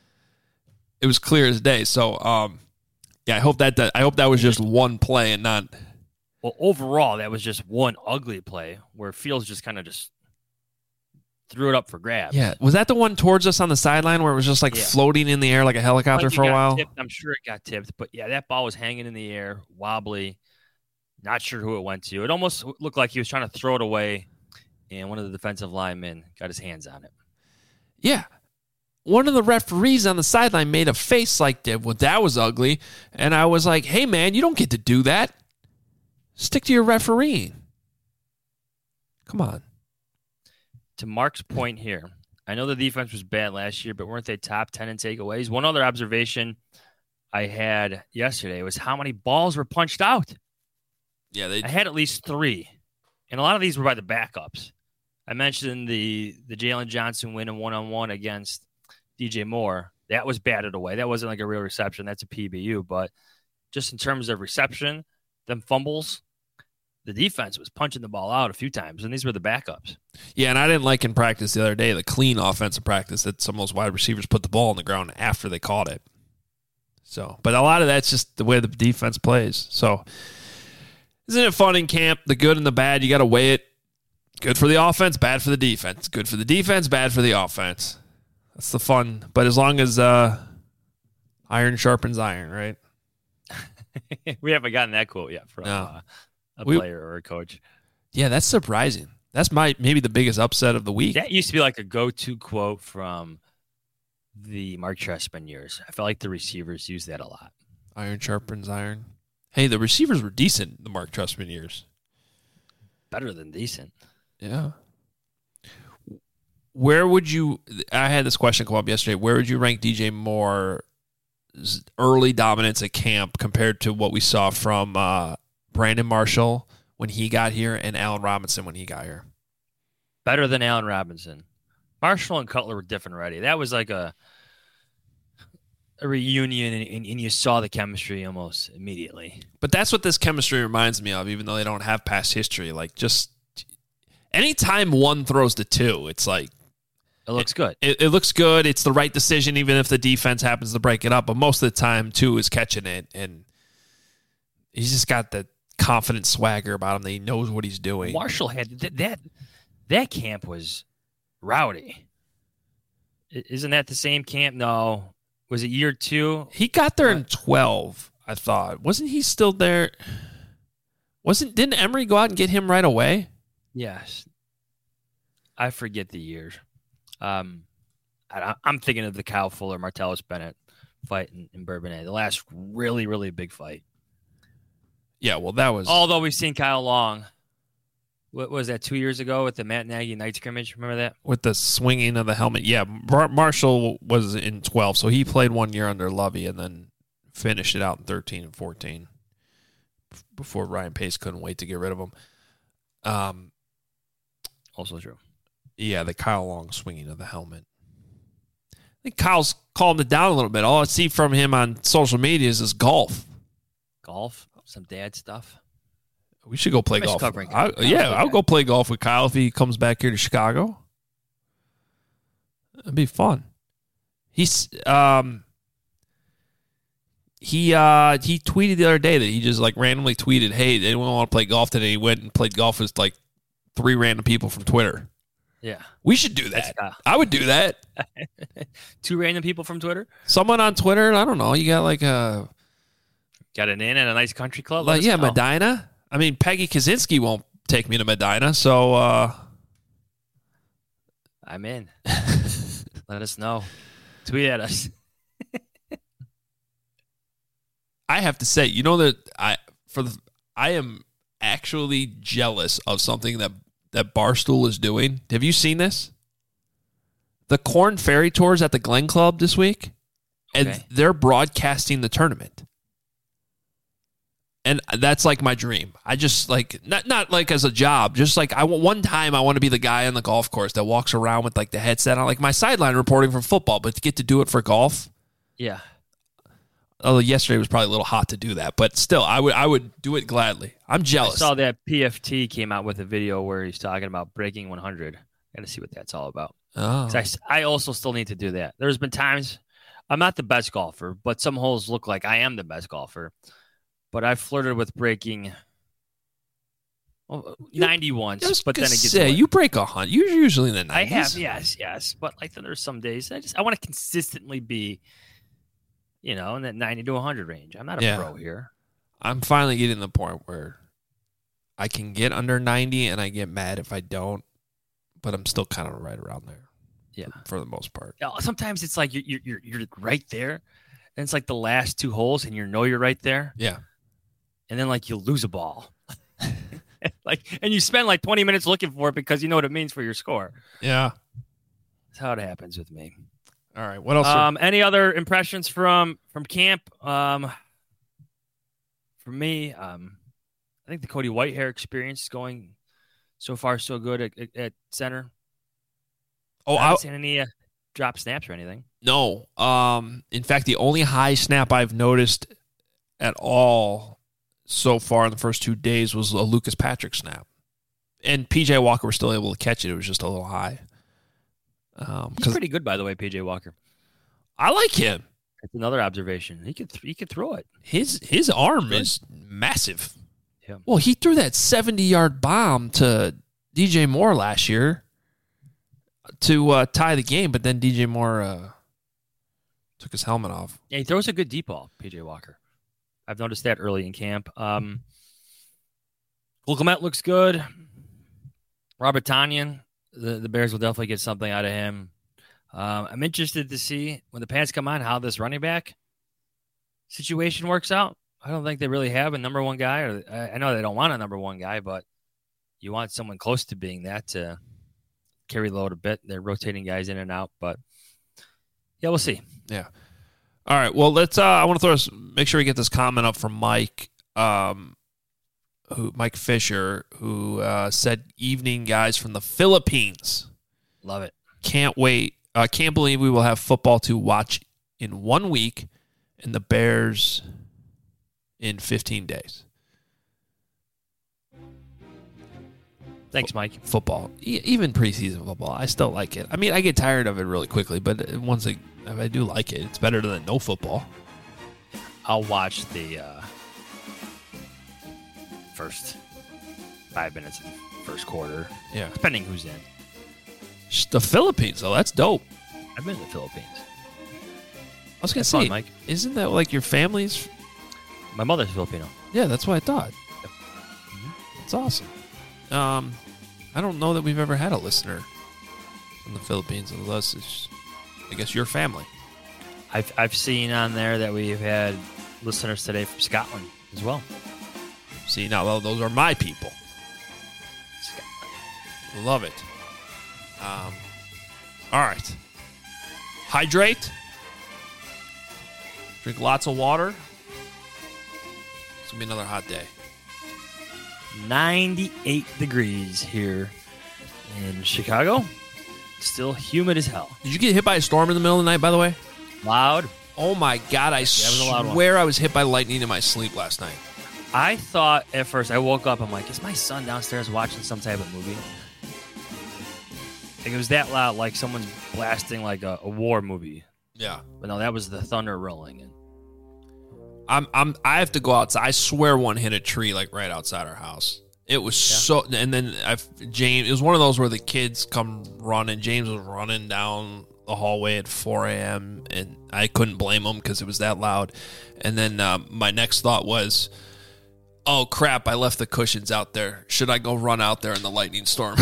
It was clear as day. So, um, yeah, I hope that, that I hope that was just one play and not. Well, overall, that was just one ugly play where Fields just kind of just threw it up for grabs. Yeah. Was that the one towards us on the sideline where it was just like yeah. floating in the air like a helicopter like for a while? Tipped. I'm sure it got tipped. But, yeah, that ball was hanging in the air, wobbly. Not sure who it went to. It almost looked like he was trying to throw it away, and one of the defensive linemen got his hands on it. Yeah. One of the referees on the sideline made a face like that. Well, that was ugly. And I was like, hey, man, you don't get to do that. Stick to your refereeing. Come on. To Mark's point here, I know the defense was bad last year, but weren't they top ten in takeaways? One other observation I had yesterday was how many balls were punched out. Yeah, they. I had at least three, and a lot of these were by the backups. I mentioned the the Jalen Johnson win in one-on-one against D J Moore. That was batted away. That wasn't like a real reception. That's a P B U. But just in terms of reception, them fumbles, the defense was punching the ball out a few times, and these were the backups. Yeah, and I didn't like in practice the other day, the clean offensive practice that some of those wide receivers put the ball on the ground after they caught it. So, but a lot of that's just the way the defense plays. So, isn't it fun in camp? The good and the bad, you got to weigh it. Good for the offense, bad for the defense. Good for the defense, bad for the offense. That's the fun. But as long as uh, iron sharpens iron, right? We haven't gotten that quote yet from no. uh, a we, player or a coach. Yeah, that's surprising. That's my maybe the biggest upset of the week. That used to be like a go-to quote from the Mark Trestman years. I felt like the receivers used that a lot. Iron sharpens iron. Hey, the receivers were decent the Mark Trestman years. Better than decent. Yeah. Where would you – I had this question come up yesterday. Where would you rank D J Moore's early dominance at camp compared to what we saw from uh, Brandon Marshall when he got here and Allen Robinson when he got here? Better than Allen Robinson. Marshall and Cutler were different already. That was like a a reunion, and, and, and you saw the chemistry almost immediately. But that's what this chemistry reminds me of, even though they don't have past history. Like, just anytime one throws to two, it's like it looks good. It, it looks good. It's the right decision, even if the defense happens to break it up. But most of the time, two is catching it, and he's just got the confident swagger about him that he knows what he's doing. Marshall had that that, that camp was rowdy. Isn't that the same camp? No. Was it year two? He got there in twelve, I thought. Wasn't he still there? Wasn't didn't Emory go out and get him right away? Yes. I forget the years. Um, I, I'm thinking of the Kyle Fuller, Martellus Bennett fight in, in Bourbonnais. The last really, really big fight. Yeah, well, that was... Although we've seen Kyle Long. What was that, two years ago with the Matt Nagy night scrimmage? Remember that? With the swinging of the helmet. Yeah, Mar- Marshall was in twelve, so he played one year under Lovey and then finished it out in thirteen and fourteen before Ryan Pace couldn't wait to get rid of him. Um, also true. Yeah, the Kyle Long swinging of the helmet. I think Kyle's calmed it down a little bit. All I see from him on social media is this golf. Golf? Some dad stuff? We should go play golf. I, yeah, I'll go play golf with Kyle if he comes back here to Chicago. It'd be fun. He's um, he uh, he tweeted the other day that he just like randomly tweeted, "Hey, anyone want to play golf today?" He went and played golf with like three random people from Twitter. Yeah, we should do that. Uh, I would do that. Two random people from Twitter. Someone on Twitter. I don't know. You got like a got an inn at a nice country club. Like yeah, know. Medina. I mean, Peggy Kaczynski won't take me to Medina, so uh, I'm in. Let us know. Tweet at us. I have to say, you know that I for the I am actually jealous of something that that Barstool is doing. Have you seen this? The Corn Ferry Tour's at the Glen Club this week, and okay. they're broadcasting the tournament. And that's like my dream. I just like not not like as a job, just like I want one time I want to be the guy on the golf course that walks around with like the headset on, like my sideline reporting from football, but to get to do it for golf. Yeah. Although yesterday was probably a little hot to do that, but still, I would I would do it gladly. I'm jealous. I saw that P F T came out with a video where he's talking about breaking one hundred. Got to see what that's all about. Oh. I, I also still need to do that. There's been times I'm not the best golfer, but some holes look like I am the best golfer. But I flirted with breaking well, ninety once, but then it gets say, you break a hundred. You're usually in the nineties. I have, yes, yes. But like there's some days I just I want to consistently be, you know, in that ninety to one hundred range. I'm not a yeah. pro here. I'm finally getting to the point where I can get under ninety, and I get mad if I don't. But I'm still kind of right around there. Yeah, for, for the most part. Yeah, sometimes it's like you're you're you're right there, and it's like the last two holes, and you know you're right there. Yeah. And then, like, you lose a ball. like, and you spend, like, twenty minutes looking for it because you know what it means for your score. Yeah. That's how it happens with me. All right. What else? Um, are... Any other impressions from from camp? Um, for me, um, I think the Cody Whitehair experience is going so far so good at, at, at center. Oh, I haven't seen any uh, drop snaps or anything. No. Um, in fact, the only high snap I've noticed at all so far in the first two days was a Lucas Patrick snap. And P J Walker was still able to catch it. It was just a little high. Um, He's pretty good, by the way, P J Walker. I like him. That's another observation. He could th- he could throw it. His his arm is massive. Yeah. Well, he threw that seventy-yard bomb to D J Moore last year to uh, tie the game, but then D J Moore uh, took his helmet off. Yeah, he throws a good deep ball, P J Walker. I've noticed that early in camp. Um, Cole Kmet looks good. Robert Tonyan, the, the Bears will definitely get something out of him. Um, I'm interested to see when the pants come on how this running back situation works out. I don't think they really have a number one guy. Or I, I know they don't want a number one guy, but you want someone close to being that to carry the load a bit. They're rotating guys in and out, but yeah, we'll see. Yeah. All right. Well, let's. Uh, I want to throw us. Make sure we get this comment up from Mike, um, who Mike Fisher, who uh, said, "Evening, guys from the Philippines. Love it. Can't wait. I uh, can't believe we will have football to watch in one week, and the Bears in fifteen days." Thanks, Mike. Football, e- even preseason football, I still like it. I mean, I get tired of it really quickly, but once I, I do like it, it's better than no football. I'll watch the uh, first five minutes of the first quarter. Yeah, depending who's in. The Philippines, though, that's dope. I've been to the Philippines. I was gonna that's say, fun, Mike. Isn't that like your family's? My mother's Filipino. Yeah, that's what I thought. Yep. Mm-hmm. That's awesome. Um, I don't know that we've ever had a listener from the Philippines, unless it's, I guess, your family. I've I've seen on there that we've had listeners today from Scotland as well. See, now well, those are my people. Scotland. Love it. Um, all right. Hydrate. Drink lots of water. It's going to be another hot day. ninety-eight degrees here in Chicago. Still humid as hell. Did you get hit by a storm in the middle of the night, by the way? Loud. Oh, my God. I swear I was hit by lightning in my sleep last night. I thought at first, I woke up, I'm like, is my son downstairs watching some type of movie? Like, it was that loud, like someone's blasting like a, a war movie. Yeah. But no, that was the thunder rolling. And I'm I'm I have to go outside. I swear one hit a tree like right outside our house. It was yeah. so, and then I've, James. It was one of those where the kids come running. James was running down the hallway at four a.m. and I couldn't blame him because it was that loud. And then um, my next thought was, "Oh crap! I left the cushions out there. Should I go run out there in the lightning storm?"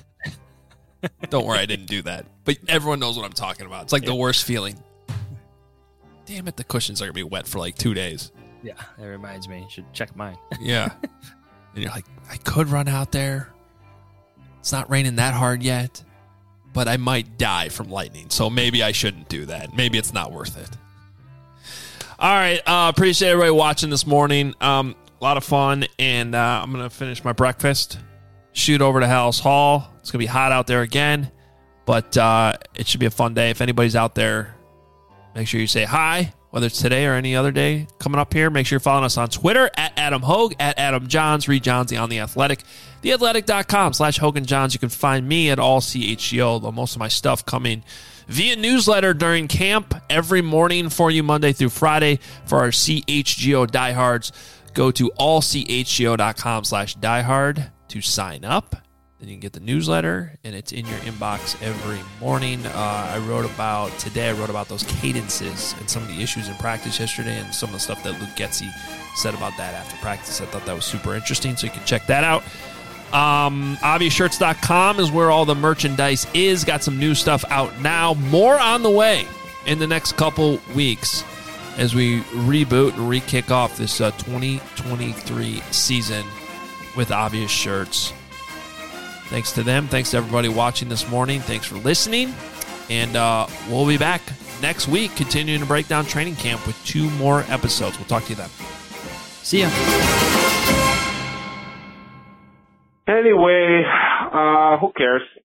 Don't worry, I didn't do that. But everyone knows what I'm talking about. It's like yeah. the worst feeling. Damn it! The cushions are gonna be wet for like two days. Yeah, that reminds me. You should check mine. Yeah. And you're like, I could run out there. It's not raining that hard yet, but I might die from lightning. So maybe I shouldn't do that. Maybe it's not worth it. All right. Uh, appreciate everybody watching this morning. Um, a lot of fun. And uh, I'm going to finish my breakfast, shoot over to Hallis Hall. It's going to be hot out there again, but uh, it should be a fun day. If anybody's out there, make sure you say hi. Whether it's today or any other day coming up here, make sure you're following us on Twitter at Adam Hogue, at Adam Johns, Reed Johnsy on The Athletic, theathletic.com slash Hogan Johns. You can find me at all C H G O, though most of my stuff coming via newsletter during camp every morning for you Monday through Friday. For our C H G O diehards, go to all C H G O dot com slash diehard to sign up. Then you can get the newsletter, and it's in your inbox every morning. Uh, I wrote about, today I wrote about those cadences and some of the issues in practice yesterday and some of the stuff that Luke Getsy said about that after practice. I thought that was super interesting, so you can check that out. Um, obvious shirts dot com is where all the merchandise is. Got some new stuff out now. More on the way in the next couple weeks as we reboot and re-kick off this uh, twenty twenty-three season with Obvious Shirts. Thanks to them. Thanks to everybody watching this morning. Thanks for listening. And uh, we'll be back next week continuing to break down training camp with two more episodes. We'll talk to you then. See ya. Anyway, uh, who cares?